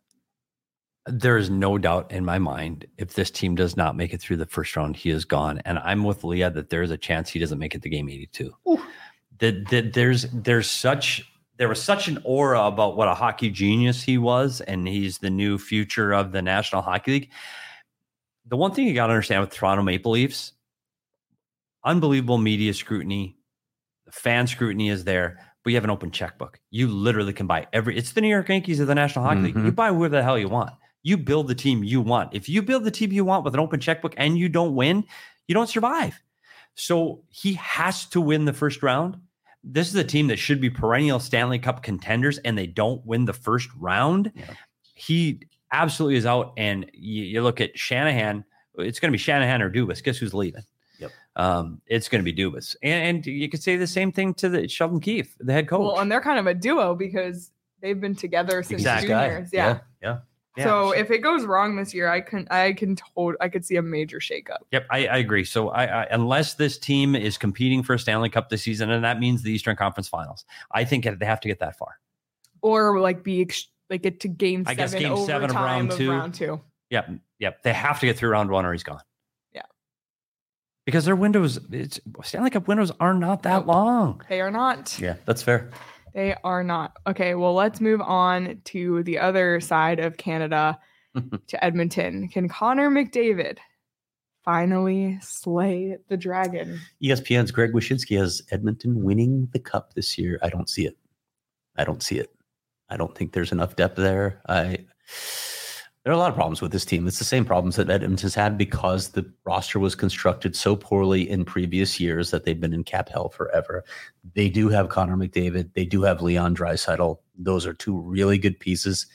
There is no doubt in my mind, if this team does not make it through the first round, he is gone. And I'm with Leah that there's a chance he doesn't make it to game eighty-two. That, that there's there's such there was such an aura about what a hockey genius he was, and he's the new future of the National Hockey League. The one thing you got to understand with Toronto Maple Leafs, unbelievable media scrutiny, the fan scrutiny is there, but you have an open checkbook. You literally can buy every. It's the New York Yankees of the National Hockey Mm-hmm. League. You buy whoever the hell you want. You build the team you want. If you build the team you want with an open checkbook and you don't win, you don't survive. So he has to win the first round. This is a team that should be perennial Stanley Cup contenders, and they don't win the first round. Yeah. He absolutely is out. And you, you look at Shanahan, it's going to be Shanahan or Dubas. Guess who's leaving? Yep. Um, it's going to be Dubas. And, and you could say the same thing to the Sheldon Keefe, the head coach. Well, and they're kind of a duo because they've been together since exactly. juniors. Yeah. Yeah. yeah. Yeah, so if it goes wrong this year, I can I can hold I could see a major shakeup. Yep, I, I agree. So I, I unless this team is competing for a Stanley Cup this season, and that means the Eastern Conference Finals, I think they have to get that far, or like be like get to game I seven, guess game seven of round of two. round two. Yep, yep. They have to get through round one, or he's gone. Yeah, because their windows, it's Stanley Cup windows are not that nope. long. They are not. Yeah, that's fair. They are not. Okay, well, let's move on to the other side of Canada. To Edmonton. Can Connor McDavid finally slay the dragon? E S P N's Greg Wyshynski has Edmonton winning the cup this year. I don't see it. I don't see it. I don't think there's enough depth there. I there are a lot of problems with this team. It's the same problems that Edmonton's had because the roster was constructed so poorly in previous years that they've been in cap hell forever. They do have Connor McDavid. They do have Leon Draisaitl. Those are two really good pieces.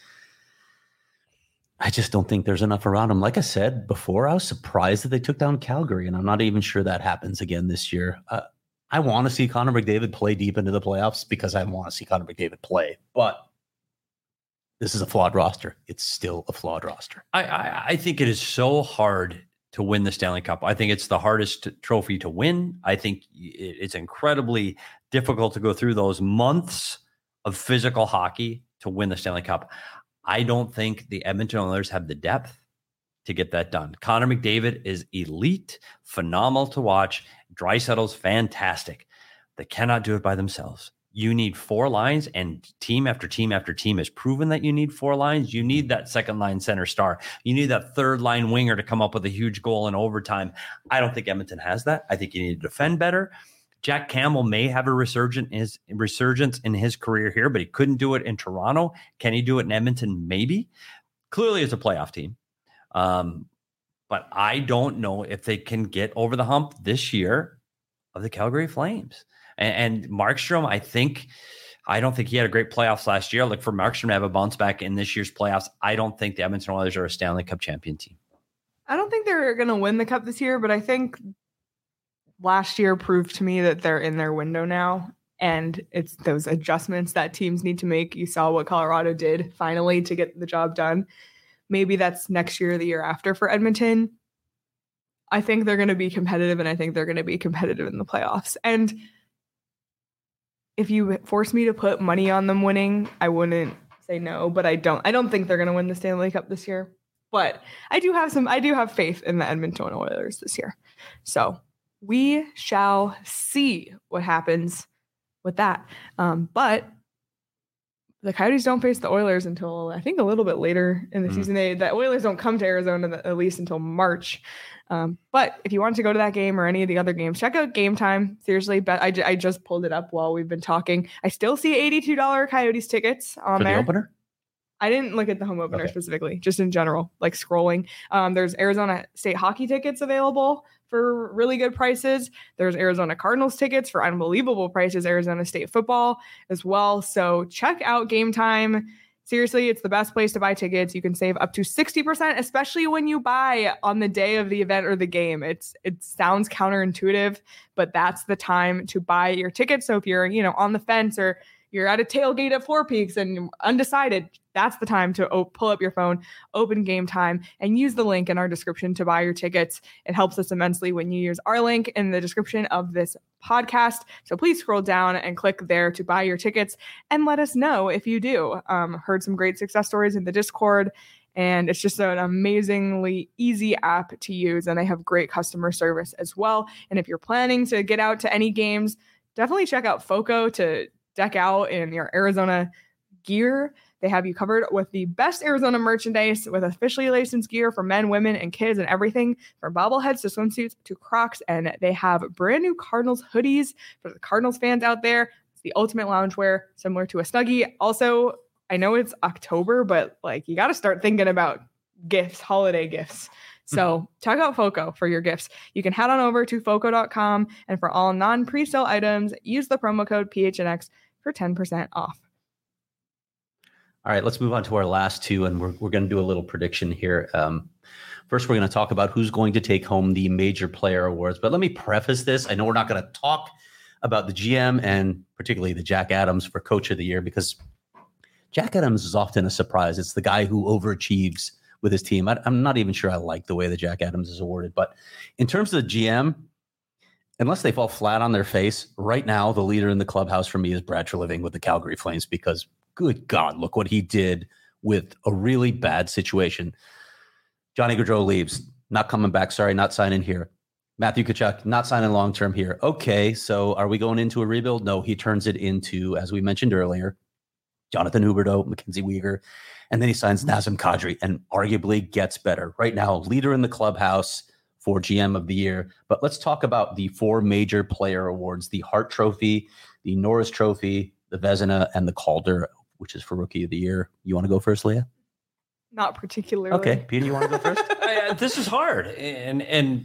I just don't think there's enough around them. Like I said before, I was surprised that they took down Calgary, and I'm not even sure that happens again this year. Uh, I want to see Connor McDavid play deep into the playoffs because I want to see Connor McDavid play. But this is a flawed roster. It's still a flawed roster. I, I, I think it is so hard to win the Stanley Cup. I think it's the hardest trophy to win. I think it's incredibly difficult to go through those months of physical hockey to win the Stanley Cup. I don't think the Edmonton Oilers have the depth to get that done. Connor McDavid is elite, phenomenal to watch. Draisaitl's fantastic. They cannot do it by themselves. You need four lines, and team after team after team has proven that you need four lines. You need that second line center star. You need that third line winger to come up with a huge goal in overtime. I don't think Edmonton has that. I think you need to defend better. Jack Campbell may have a resurgence in his, resurgence in his career here, but he couldn't do it in Toronto. Can he do it in Edmonton? Maybe. Clearly, it's a playoff team. Um, but I don't know if they can get over the hump this year of the Calgary Flames. And, and Markstrom, I think, I don't think he had a great playoffs last year. Like for Markstrom to have a bounce back in this year's playoffs, I don't think the Edmonton Oilers are a Stanley Cup champion team. I don't think they're going to win the cup this year, but I think last year proved to me that they're in their window now. And it's those adjustments that teams need to make. You saw what Colorado did finally to get the job done. Maybe that's next year or the year after for Edmonton. I think they're going to be competitive, and I think they're going to be competitive in the playoffs. And if you force me to put money on them winning, I wouldn't say no, but I don't. I don't think they're going to win the Stanley Cup this year. But I do have some. I do have faith in the Edmonton Oilers this year. So we shall see what happens with that. Um, but the Coyotes don't face the Oilers until I think a little bit later in the mm. season. They, the Oilers don't come to Arizona at least until March. Um, but if you want to go to that game or any of the other games, check out Game Time. Seriously, but I, j- I just pulled it up while we've been talking. I still see eighty-two dollars Coyotes tickets on For there. the opener? I didn't look at the home opener okay. specifically, just in general, like scrolling. Um, there's Arizona State hockey tickets available for really good prices. There's Arizona Cardinals tickets for unbelievable prices, Arizona State football as well. So check out Game Time. Seriously, it's the best place to buy tickets. You can save up to sixty percent, especially when you buy on the day of the event or the game. It's It sounds counterintuitive, but that's the time to buy your tickets. So if you're, you know, on the fence or you're at a tailgate at Four Peaks and undecided, that's the time to op- pull up your phone, open Game Time, and use the link in our description to buy your tickets. It helps us immensely when you use our link in the description of this podcast. So please scroll down and click there to buy your tickets and let us know if you do. Um, heard some great success stories in the Discord, and it's just an amazingly easy app to use, and they have great customer service as well. And if you're planning to get out to any games, definitely check out Foco to deck out in your Arizona gear. They have you covered with the best Arizona merchandise with officially licensed gear for men, women, and kids and everything from bobbleheads to swimsuits to Crocs. And they have brand new Cardinals hoodies for the Cardinals fans out there. It's the ultimate loungewear, similar to a Snuggie. Also, I know it's October, but like you got to start thinking about gifts, holiday gifts. So check out Foco for your gifts. You can head on over to foco dot com, and for all non-presale items, use the promo code P H N X for ten percent off. All right, let's move on to our last two, and we're we're going to do a little prediction here. Um, first, we're going to talk about who's going to take home the major player awards. But let me preface this. I know we're not going to talk about the G M and particularly the Jack Adams for Coach of the Year, because Jack Adams is often a surprise. It's the guy who overachieves with his team. I, I'm not even sure I like the way that Jack Adams is awarded. But in terms of the G M, unless they fall flat on their face, right now the leader in the clubhouse for me is Brad Treliving with the Calgary Flames, because good God, look what he did with a really bad situation. Johnny Gaudreau leaves, not coming back. Sorry, not signing here. Matthew Tkachuk, not signing long-term here. Okay, so are we going into a rebuild? No, he turns it into, as we mentioned earlier, Jonathan Huberdeau, Mackenzie Weegar, and then he signs Nazem Kadri and arguably gets better. Right now, leader in the clubhouse for G M of the year. But let's talk about the four major player awards: the Hart Trophy, the Norris Trophy, the Vezina, and the Calder, which is for Rookie of the Year. You want to go first, Leah? Not particularly. Okay, Peter, you want to go first? I, this is hard, and and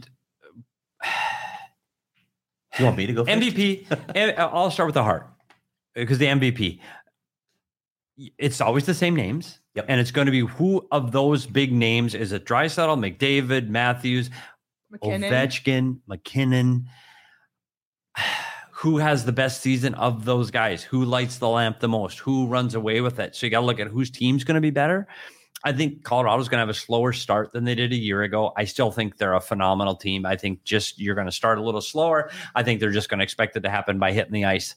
you want me to go first? M V P. And I'll start with the Hart, because the M V P, it's always the same names. Yep. And it's going to be who of those big names is it? Draisaitl, McDavid, Matthews, McKinnon. Ovechkin, McKinnon. who has the best season of those guys, who lights the lamp the most, who runs away with it. So you got to look at whose team's going to be better. I think Colorado's going to have a slower start than they did a year ago. I still think they're a phenomenal team. I think just you're going to start a little slower. I think they're just going to expect it to happen by hitting the ice.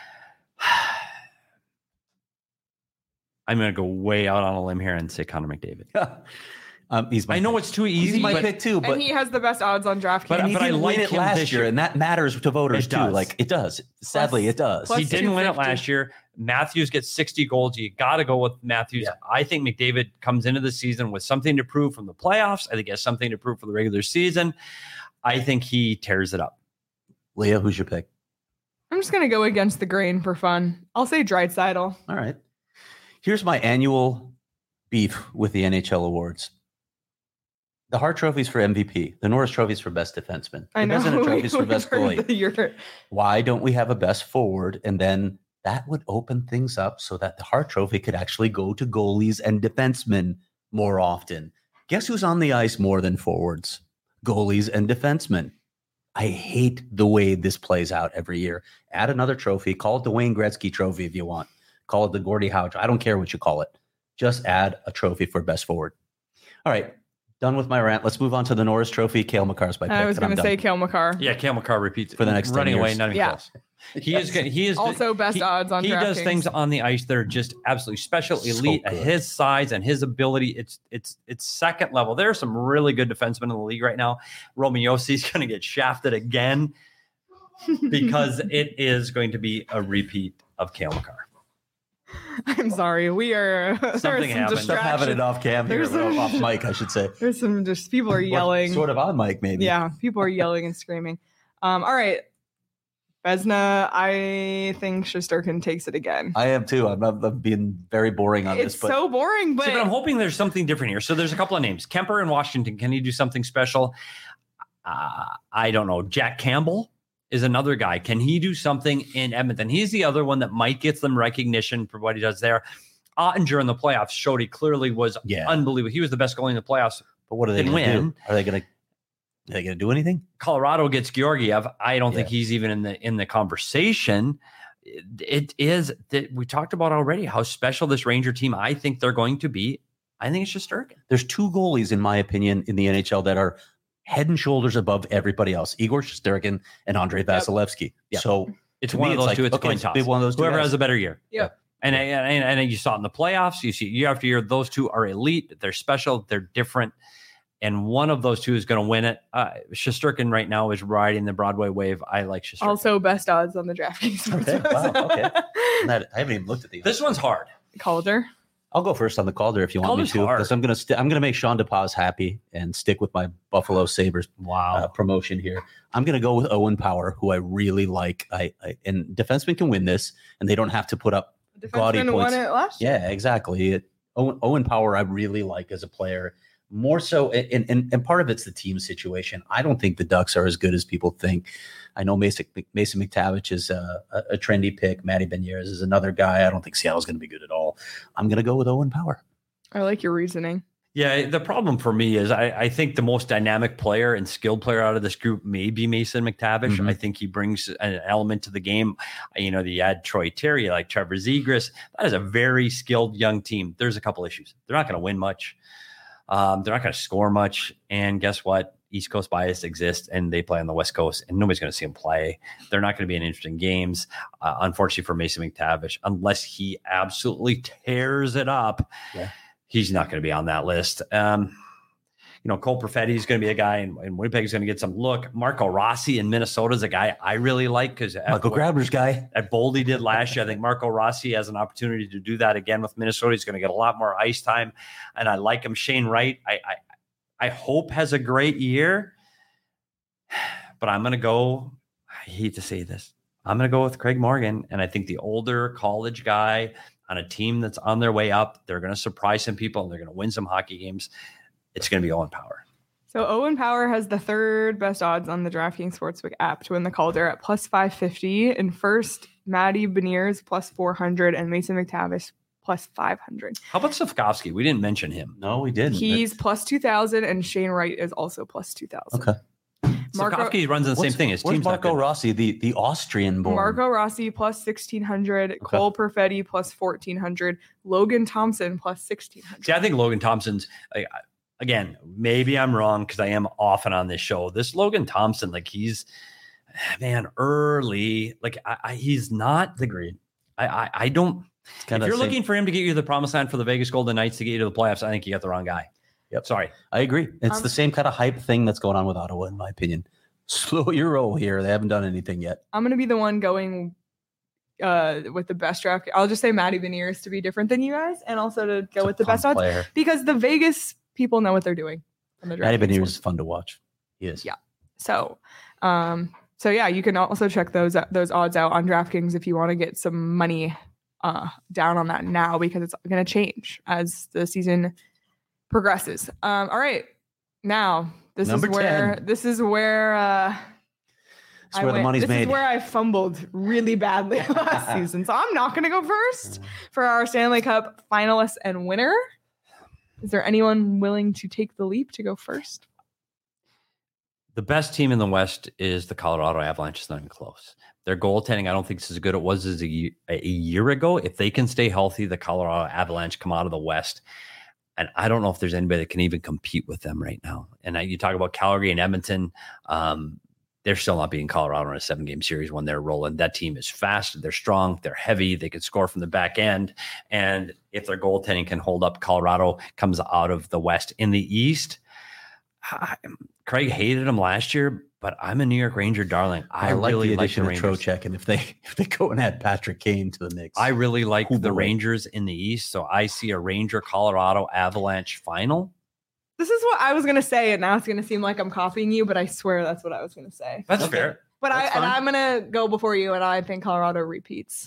I'm going to go way out on a limb here and say Connor McDavid. um, he's my I know pick. it's too easy. He's my but, pick too, but and he has the best odds on DraftKings. But- and he but I didn't like win it him last this year, year. and that matters to voters It too. does. Like it does. Sadly, it does. plus he didn't win it two fifty. last year. Matthews gets sixty goals. You got to go with Matthews. Yeah. I think McDavid comes into the season with something to prove from the playoffs. I think he has something to prove for the regular season. I think he tears it up. Leah, who's your pick? I'm just gonna go against the grain for fun. I'll say Draisaitl. All right. Here's my annual beef with the N H L awards. The Hart Trophy's for M V P. The Norris Trophy's for best defenseman. The I know. Vezina Trophy's for We've best heard goalie. that you're- Why don't we have a best forward? And then that would open things up so that the Hart Trophy could actually go to goalies and defensemen more often. Guess who's on the ice more than forwards? Goalies and defensemen. I hate the way this plays out every year. Add another trophy. Call it the Wayne Gretzky Trophy if you want. Call it the Gordie Howe. I don't care what you call it. Just add a trophy for best forward. All right. Done with my rant. Let's move on to the Norris Trophy. Cale Makar's my pick. I was and I'm going to say done. Cale Makar. Yeah, Cale Makar repeats For the next ten running away, years. not even Yeah. close. He is good. He is Also best he, odds on He does DraftKings. things on the ice that are just absolutely special, So elite at good. his size and his ability. It's it's it's second level. There are some really good defensemen in the league right now. Roman Yossi's going to get shafted again because it is going to be a repeat of Cale Makar. I'm sorry. We are there's some Something happened. Stop having it distractions. off cam here, There's some- off mic, I should say. There's some just people are Or yelling. Sort of on mic, maybe. Yeah, people are yelling and screaming. Um, all right. Vezina, I think Shesterkin takes it again. I am too. I'm, I'm being very boring on It's this, but so boring, but, See, but I'm hoping there's something different here. So there's a couple of names. Kemper in Washington. Can he do something special? Uh, I don't know. Jack Campbell is another guy. Can he do something in Edmonton? He's the other one that might get some recognition for what he does there. Ottinger in the playoffs showed he clearly was Yeah. unbelievable. He was the best goalie in the playoffs. but what are they Didn't going to win. do? Are they going to? Are they going to do anything? Colorado gets Georgiev. I don't think Yeah. he's even in the in the conversation. It, it is that we talked about already how special this Ranger team I think they're going to be. I think it's Shesterkin. There's two goalies, in my opinion, in the N H L that are head and shoulders above everybody else: Igor Shesterkin and Andrei Vasilevsky. Yep. So It's to one me, of those like, two. It's okay, coin it's toss. be one of those two Whoever guys. has a better year. Yep. And, and and you saw it in the playoffs. You see year after year, those two are elite. They're special. They're different. And one of those two is going to win it. Uh, Shesterkin right now is riding the Broadway wave. I like Shesterkin. also best odds on the DraftKings. Okay, wow, okay. That- I haven't even looked at these. This one's hard. Calder. I'll go first on the Calder if you want Calder's me to, hard. because I'm going to st- I'm going to make Sean DePaz happy and stick with my Buffalo Sabres Wow. uh, promotion here. I'm going to go with Owen Power, who I really like. I, I and defensemen can win this, and they don't have to put up. Gaudy Defenseman won points. it last year. Yeah, exactly. It, Owen, Owen Power, I really like as a player. More so, and, and and part of it's the team situation. I don't think the Ducks are as good as people think. I know Mason Mason McTavish is a, a, a trendy pick. Matty Beniers is another guy. I don't think Seattle's going to be good at all. I'm going to go with Owen Power. I like your reasoning. Yeah, the problem for me is I, I think the most dynamic player and skilled player out of this group may be Mason McTavish. Mhm. I think he brings an element to the game. You know, you add Troy Terry, like Trevor Zegras. That is a very skilled young team. There's a couple issues. They're not going to win much. Um, they're not going to score much. And guess what? East Coast bias exists, and they play on the West Coast, and nobody's going to see them play. They're not going to be in interesting games, uh, unfortunately for Mason McTavish, unless he absolutely tears it up. Yeah. He's not going to be on that list. Um, you know, Cole Perfetti is going to be a guy, and, and Winnipeg is going to get some look. Marco Rossi in Minnesota is a guy I really like because Michael Grabner's guy. at Boldy did last year. I think Marco Rossi has an opportunity to do that again with Minnesota. He's going to get a lot more ice time, and I like him. Shane Wright, I I, I hope has a great year, but I'm going to go. I hate to say this. I'm going to go with Craig Morgan, and I think the older college guy on a team that's on their way up, they're going to surprise some people, and they're going to win some hockey games. It's going to be Owen Power. So Owen Power has the third best odds on the DraftKings Sportsbook app to win the Calder at plus five fifty. In first, Matty Beniers plus four hundred and Mason McTavish plus five hundred. How about Safkovsky? We didn't mention him. No, we didn't. He's plus two thousand and Shane Wright is also plus two thousand. Okay. Slafkovsky runs in the same thing. His where's team's not Marco good. Rossi, the, the Austrian born? Marco Rossi plus sixteen hundred, Okay. Cole Perfetti plus fourteen hundred, Logan Thompson plus sixteen hundred. See, I think Logan Thompson's, I, I- again, maybe I'm wrong because I am often on this show. This Logan Thompson, like he's, man, early. Like I, I, he's not the Agreed. I, I, I don't. It's If kinda you're same- looking for him to get you to the promised land for the Vegas Golden Knights to get you to the playoffs, I think you got the wrong guy. Yep. Sorry. I agree. It's Um, the same kind of hype thing that's going on with Ottawa, in my opinion. Slow your roll here. They haven't done anything yet. I'm going to be the one going uh, with the best draft. I'll just say Matty Beniers to be different than you guys and also to go It's a with the fun best odds player. because the Vegas people know what they're doing. on the Matty DraftKings Beniers one. is fun to watch. He is. Yeah. So, um, so yeah, you can also check those those odds out on DraftKings if you want to get some money uh, down on that now because it's going to change as the season progresses. Um, all right, now this Number is where ten. this is where uh, It's I where the went- money's this made. is where I fumbled really badly last season, so I'm not going to go first for our Stanley Cup finalists and winner. Is there anyone willing to take the leap to go first? The best team in the West is the Colorado Avalanche. It's not even close. Their goaltending, I don't think it's as good as it was as a, ye- a year ago. If they can stay healthy, the Colorado Avalanche come out of the West. And I don't know if there's anybody that can even compete with them right now. And I, you talk about Calgary and Edmonton. Um, they're still not beating Colorado in a seven-game series when they're rolling. That team is fast. They're strong. They're heavy. They can score from the back end. And if their goaltending can hold up, Colorado comes out of the West. In the East, I, Craig hated them last year, but I'm a New York Ranger darling. I, I, like really the like the addition of Rangers. Trocheck, and if they if they go and add Patrick Kane to the mix, I really like Who the will? Rangers in the East. So I see a Ranger Colorado Avalanche final. This is what I was gonna say, and now it's gonna seem like I'm copying you, but I swear that's what I was gonna say. That's Okay. fair. But I That's and fine. I'm gonna go before you, and I think Colorado repeats.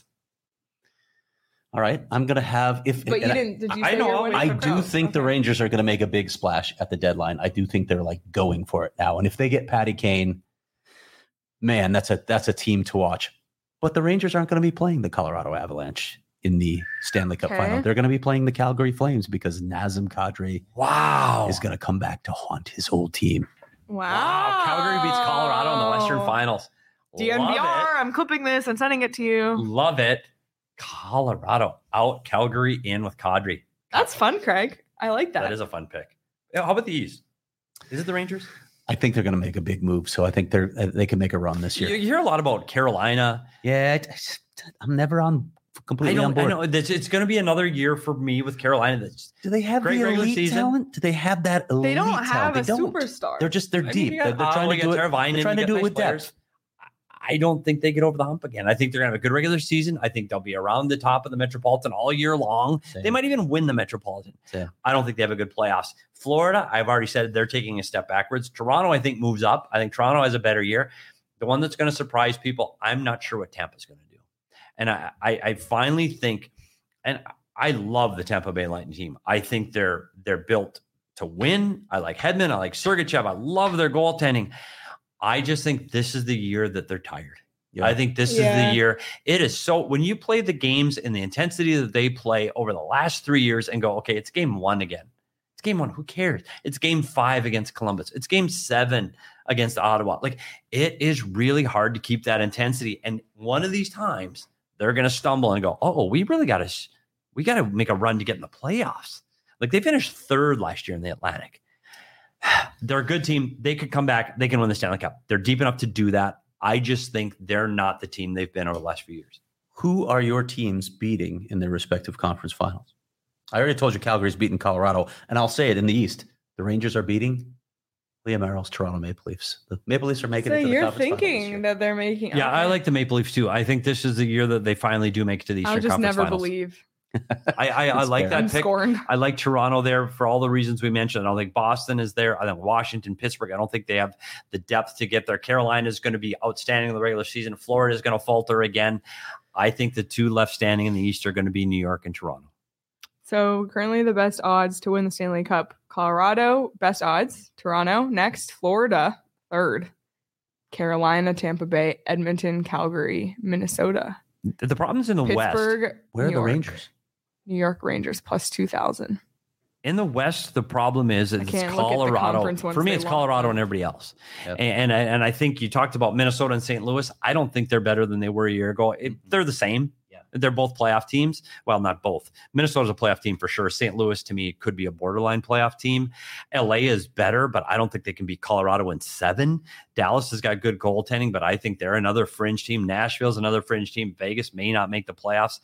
all right, I'm gonna have if But you and I- didn't. Did you I say know, you're I'll winning I for do Crows? think the Okay. Rangers are going to make a big splash at the deadline. I do think they're like going for it now. And if they get Patty Kane, man, that's a that's a team to watch. But the Rangers aren't going to be playing the Colorado Avalanche in the Stanley Cup Okay. final. They're going to be playing the Calgary Flames because Nazem Kadri Wow. is going to come back to haunt his old team. Wow. Wow. Calgary beats Colorado in the Western Finals. D N V R. Love I'm clipping this and sending it to it. you. Love it. Colorado out, Calgary in with Kadri. That's fun, Craig. I like that. That is a fun pick. Yeah, how about the East? Is it the Rangers? I think they're going to make a big move. So I think they're uh, they can make a run this You, year. you hear a lot about Carolina. Yeah, I- I'm never on I completely on don't. I board. know it's, it's going to be another year for me with Carolina. That's Do they have Great the regular elite season. talent? Do they have that elite they don't talent? have They a don't. superstar. They're just they're I mean, deep. you they're, got they're trying Ottawa, to you do got it. Teravainen, They're trying you to got do it nice with players. depth. I don't think they get over the hump again. I think they're going to have a good regular season. I think they'll be around the top of the Metropolitan all year long. Same. They might even win the Metropolitan. Same. I don't think they have a good playoffs. Florida, I've already said they're taking a step backwards. Toronto, I think, moves up. I think Toronto has a better year. The one that's going to surprise people, I'm not sure what Tampa's going to do. And I, I, I finally think, and I love the Tampa Bay Lightning team. I think they're they're built to win. I like Hedman. I like Sergachev. I love their goaltending. I just think this is the year that they're tired. Yeah. I think this Yeah. is the year. It is so when you play the games and the intensity that they play over the last three years and go, okay, it's game one again. It's game one. Who cares? It's game five against Columbus. It's game seven against Ottawa. Like it is really hard to keep that intensity. And one of these times they're going to stumble and go, oh, we really got to, we got to make a run to get in the playoffs. Like they finished third last year in the Atlantic. They're a good team. They could come back. They can win the Stanley Cup. They're deep enough to do that. I just think they're not the team they've been over the last few years. Who are your teams beating in their respective conference finals? I already told you Calgary's beating Colorado, and I'll say it in the East. The Rangers are beating Liam Merrill's Toronto Maple Leafs. The Maple Leafs are making So it to the you're conference finals this thinking year. that they're making. Yeah, I okay. like the Maple Leafs too. I think this is the year that they finally do make it to the Eastern I'll just Conference never Finals. believe. I, I, I That's like fair. that I'm pick. scorned. I like Toronto there for all the reasons we mentioned. I don't think Boston is there. I think Washington, Pittsburgh. I don't think they have the depth to get there. Carolina is going to be outstanding in the regular season. Florida is going to falter again. I think the two left standing in the East are going to be New York and Toronto. So currently the best odds to win the Stanley Cup, Colorado, best odds, Toronto, next, Florida, third, Carolina, Tampa Bay, Edmonton, Calgary, Minnesota, The, the problem's in the West. Pittsburgh, Where are New the York. Rangers? New York Rangers plus two thousand. In the West, the problem is it's can't look at the Colorado. conference ones For me, they it's lost. Colorado and everybody else. Yep. And, and and I think you talked about Minnesota and Saint Louis. I don't think they're better than they were a year ago. It, Mhm. they're the same. Yeah. They're both playoff teams. Well, not both. Minnesota's a playoff team for sure. Saint Louis, to me, could be a borderline playoff team. L A is better, but I don't think they can beat Colorado in seven. Dallas has got good goaltending, but I think they're another fringe team. Nashville's another fringe team. Vegas may not make the playoffs.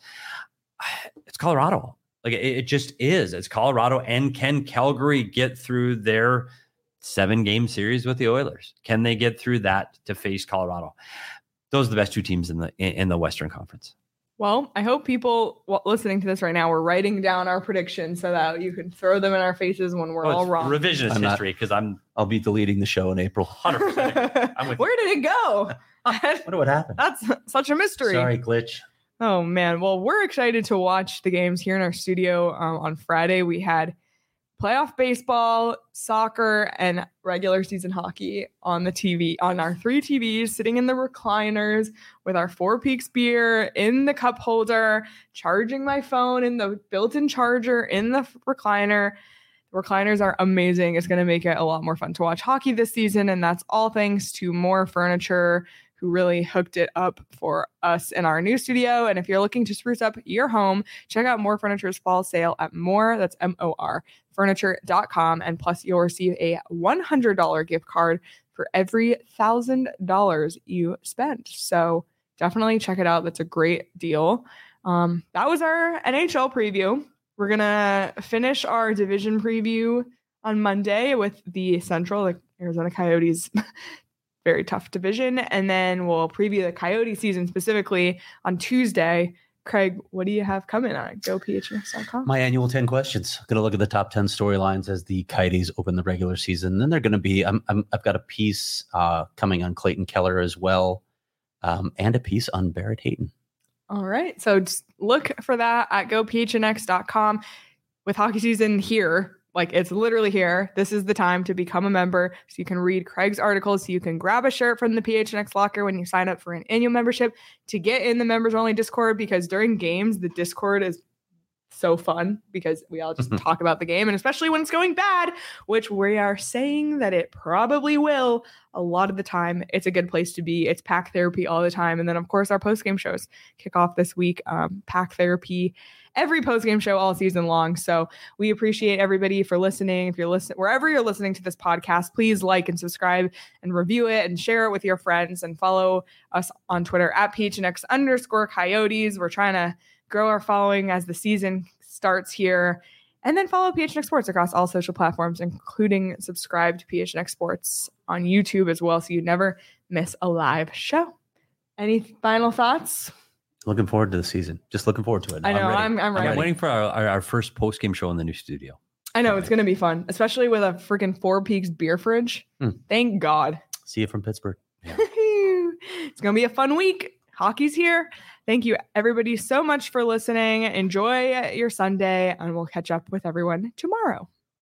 It's Colorado. Like it, it just is. It's Colorado. And can Calgary get through their seven game series with the Oilers? Can they get through that to face Colorado? Those are the best two teams in the in, in the Western Conference. Well, I hope people w- listening to this right now were writing down our predictions so that you can throw them in our faces when we're Oh, all it's wrong. revisionist I'm not- history because I'm I'll be deleting the show in April. one hundred percent. I'm with Where did it go? Wonder what happened. That's such a mystery. Sorry, glitch. Oh man. Well, we're excited to watch the games here in our studio. Um, on Friday, we had playoff baseball, soccer, and regular season hockey on the T V, on our three T Vs, sitting in the recliners with our Four Peaks beer in the cup holder, charging my phone in the built-in charger in the recliner. The recliners are amazing. It's going to make it a lot more fun to watch hockey this season, and that's all thanks to More Furniture, who really hooked it up for us in our new studio. And if you're looking to spruce up your home, check out More Furniture's fall sale at More, that's M O R, furniture dot com. And plus, you'll receive a one hundred dollars gift card for every one thousand dollars you spend. So definitely check it out. That's a great deal. Um, that was our N H L preview. We're going to finish our division preview on Monday with the Central, the Arizona Coyotes. Very tough division. And then we'll preview the Coyote season specifically on Tuesday. Craig, what do you have coming on go P H N X dot com? My annual ten questions. Going to look at the top ten storylines as the Coyotes open the regular season. Then they're going to be, I'm, I'm, I've got a piece uh, coming on Clayton Keller as well, um, and a piece on Barrett Hayton. All right. So just look for that at go P H N X dot com. With hockey season here, like it's literally here, this is the time to become a member so you can read Craig's articles, so you can grab a shirt from the P H N X locker when you sign up for an annual membership to get in the members only Discord, because during games, the Discord is so fun because we all just talk about the game, and especially when it's going bad, which we are saying that it probably will a lot of the time. It's a good place to be. It's Pack Therapy all the time. And then of course our post-game shows kick off this week. Um, Pack Therapy every post-game show all season long. So we appreciate everybody for listening. If you're listening, wherever you're listening to this podcast, please like and subscribe and review it and share it with your friends, and follow us on Twitter at P H N X underscore Coyotes. We're trying to grow our following as the season starts here. And then follow P H N X Sports across all social platforms, including subscribe to P H N X Sports on YouTube as well, so you never miss a live show. Any final thoughts? Looking forward to the season. Just looking forward to it. I know, ready. I'm, I'm ready. I'm waiting for our, our, our first post game show in the new studio. I know, it's going to be fun, especially with a freaking Four Peaks beer fridge. Hmm. Thank God. See you from Pittsburgh. It's going to be a fun week. Hockey's here. Thank you, everybody, so much for listening. Enjoy your Sunday, and we'll catch up with everyone tomorrow.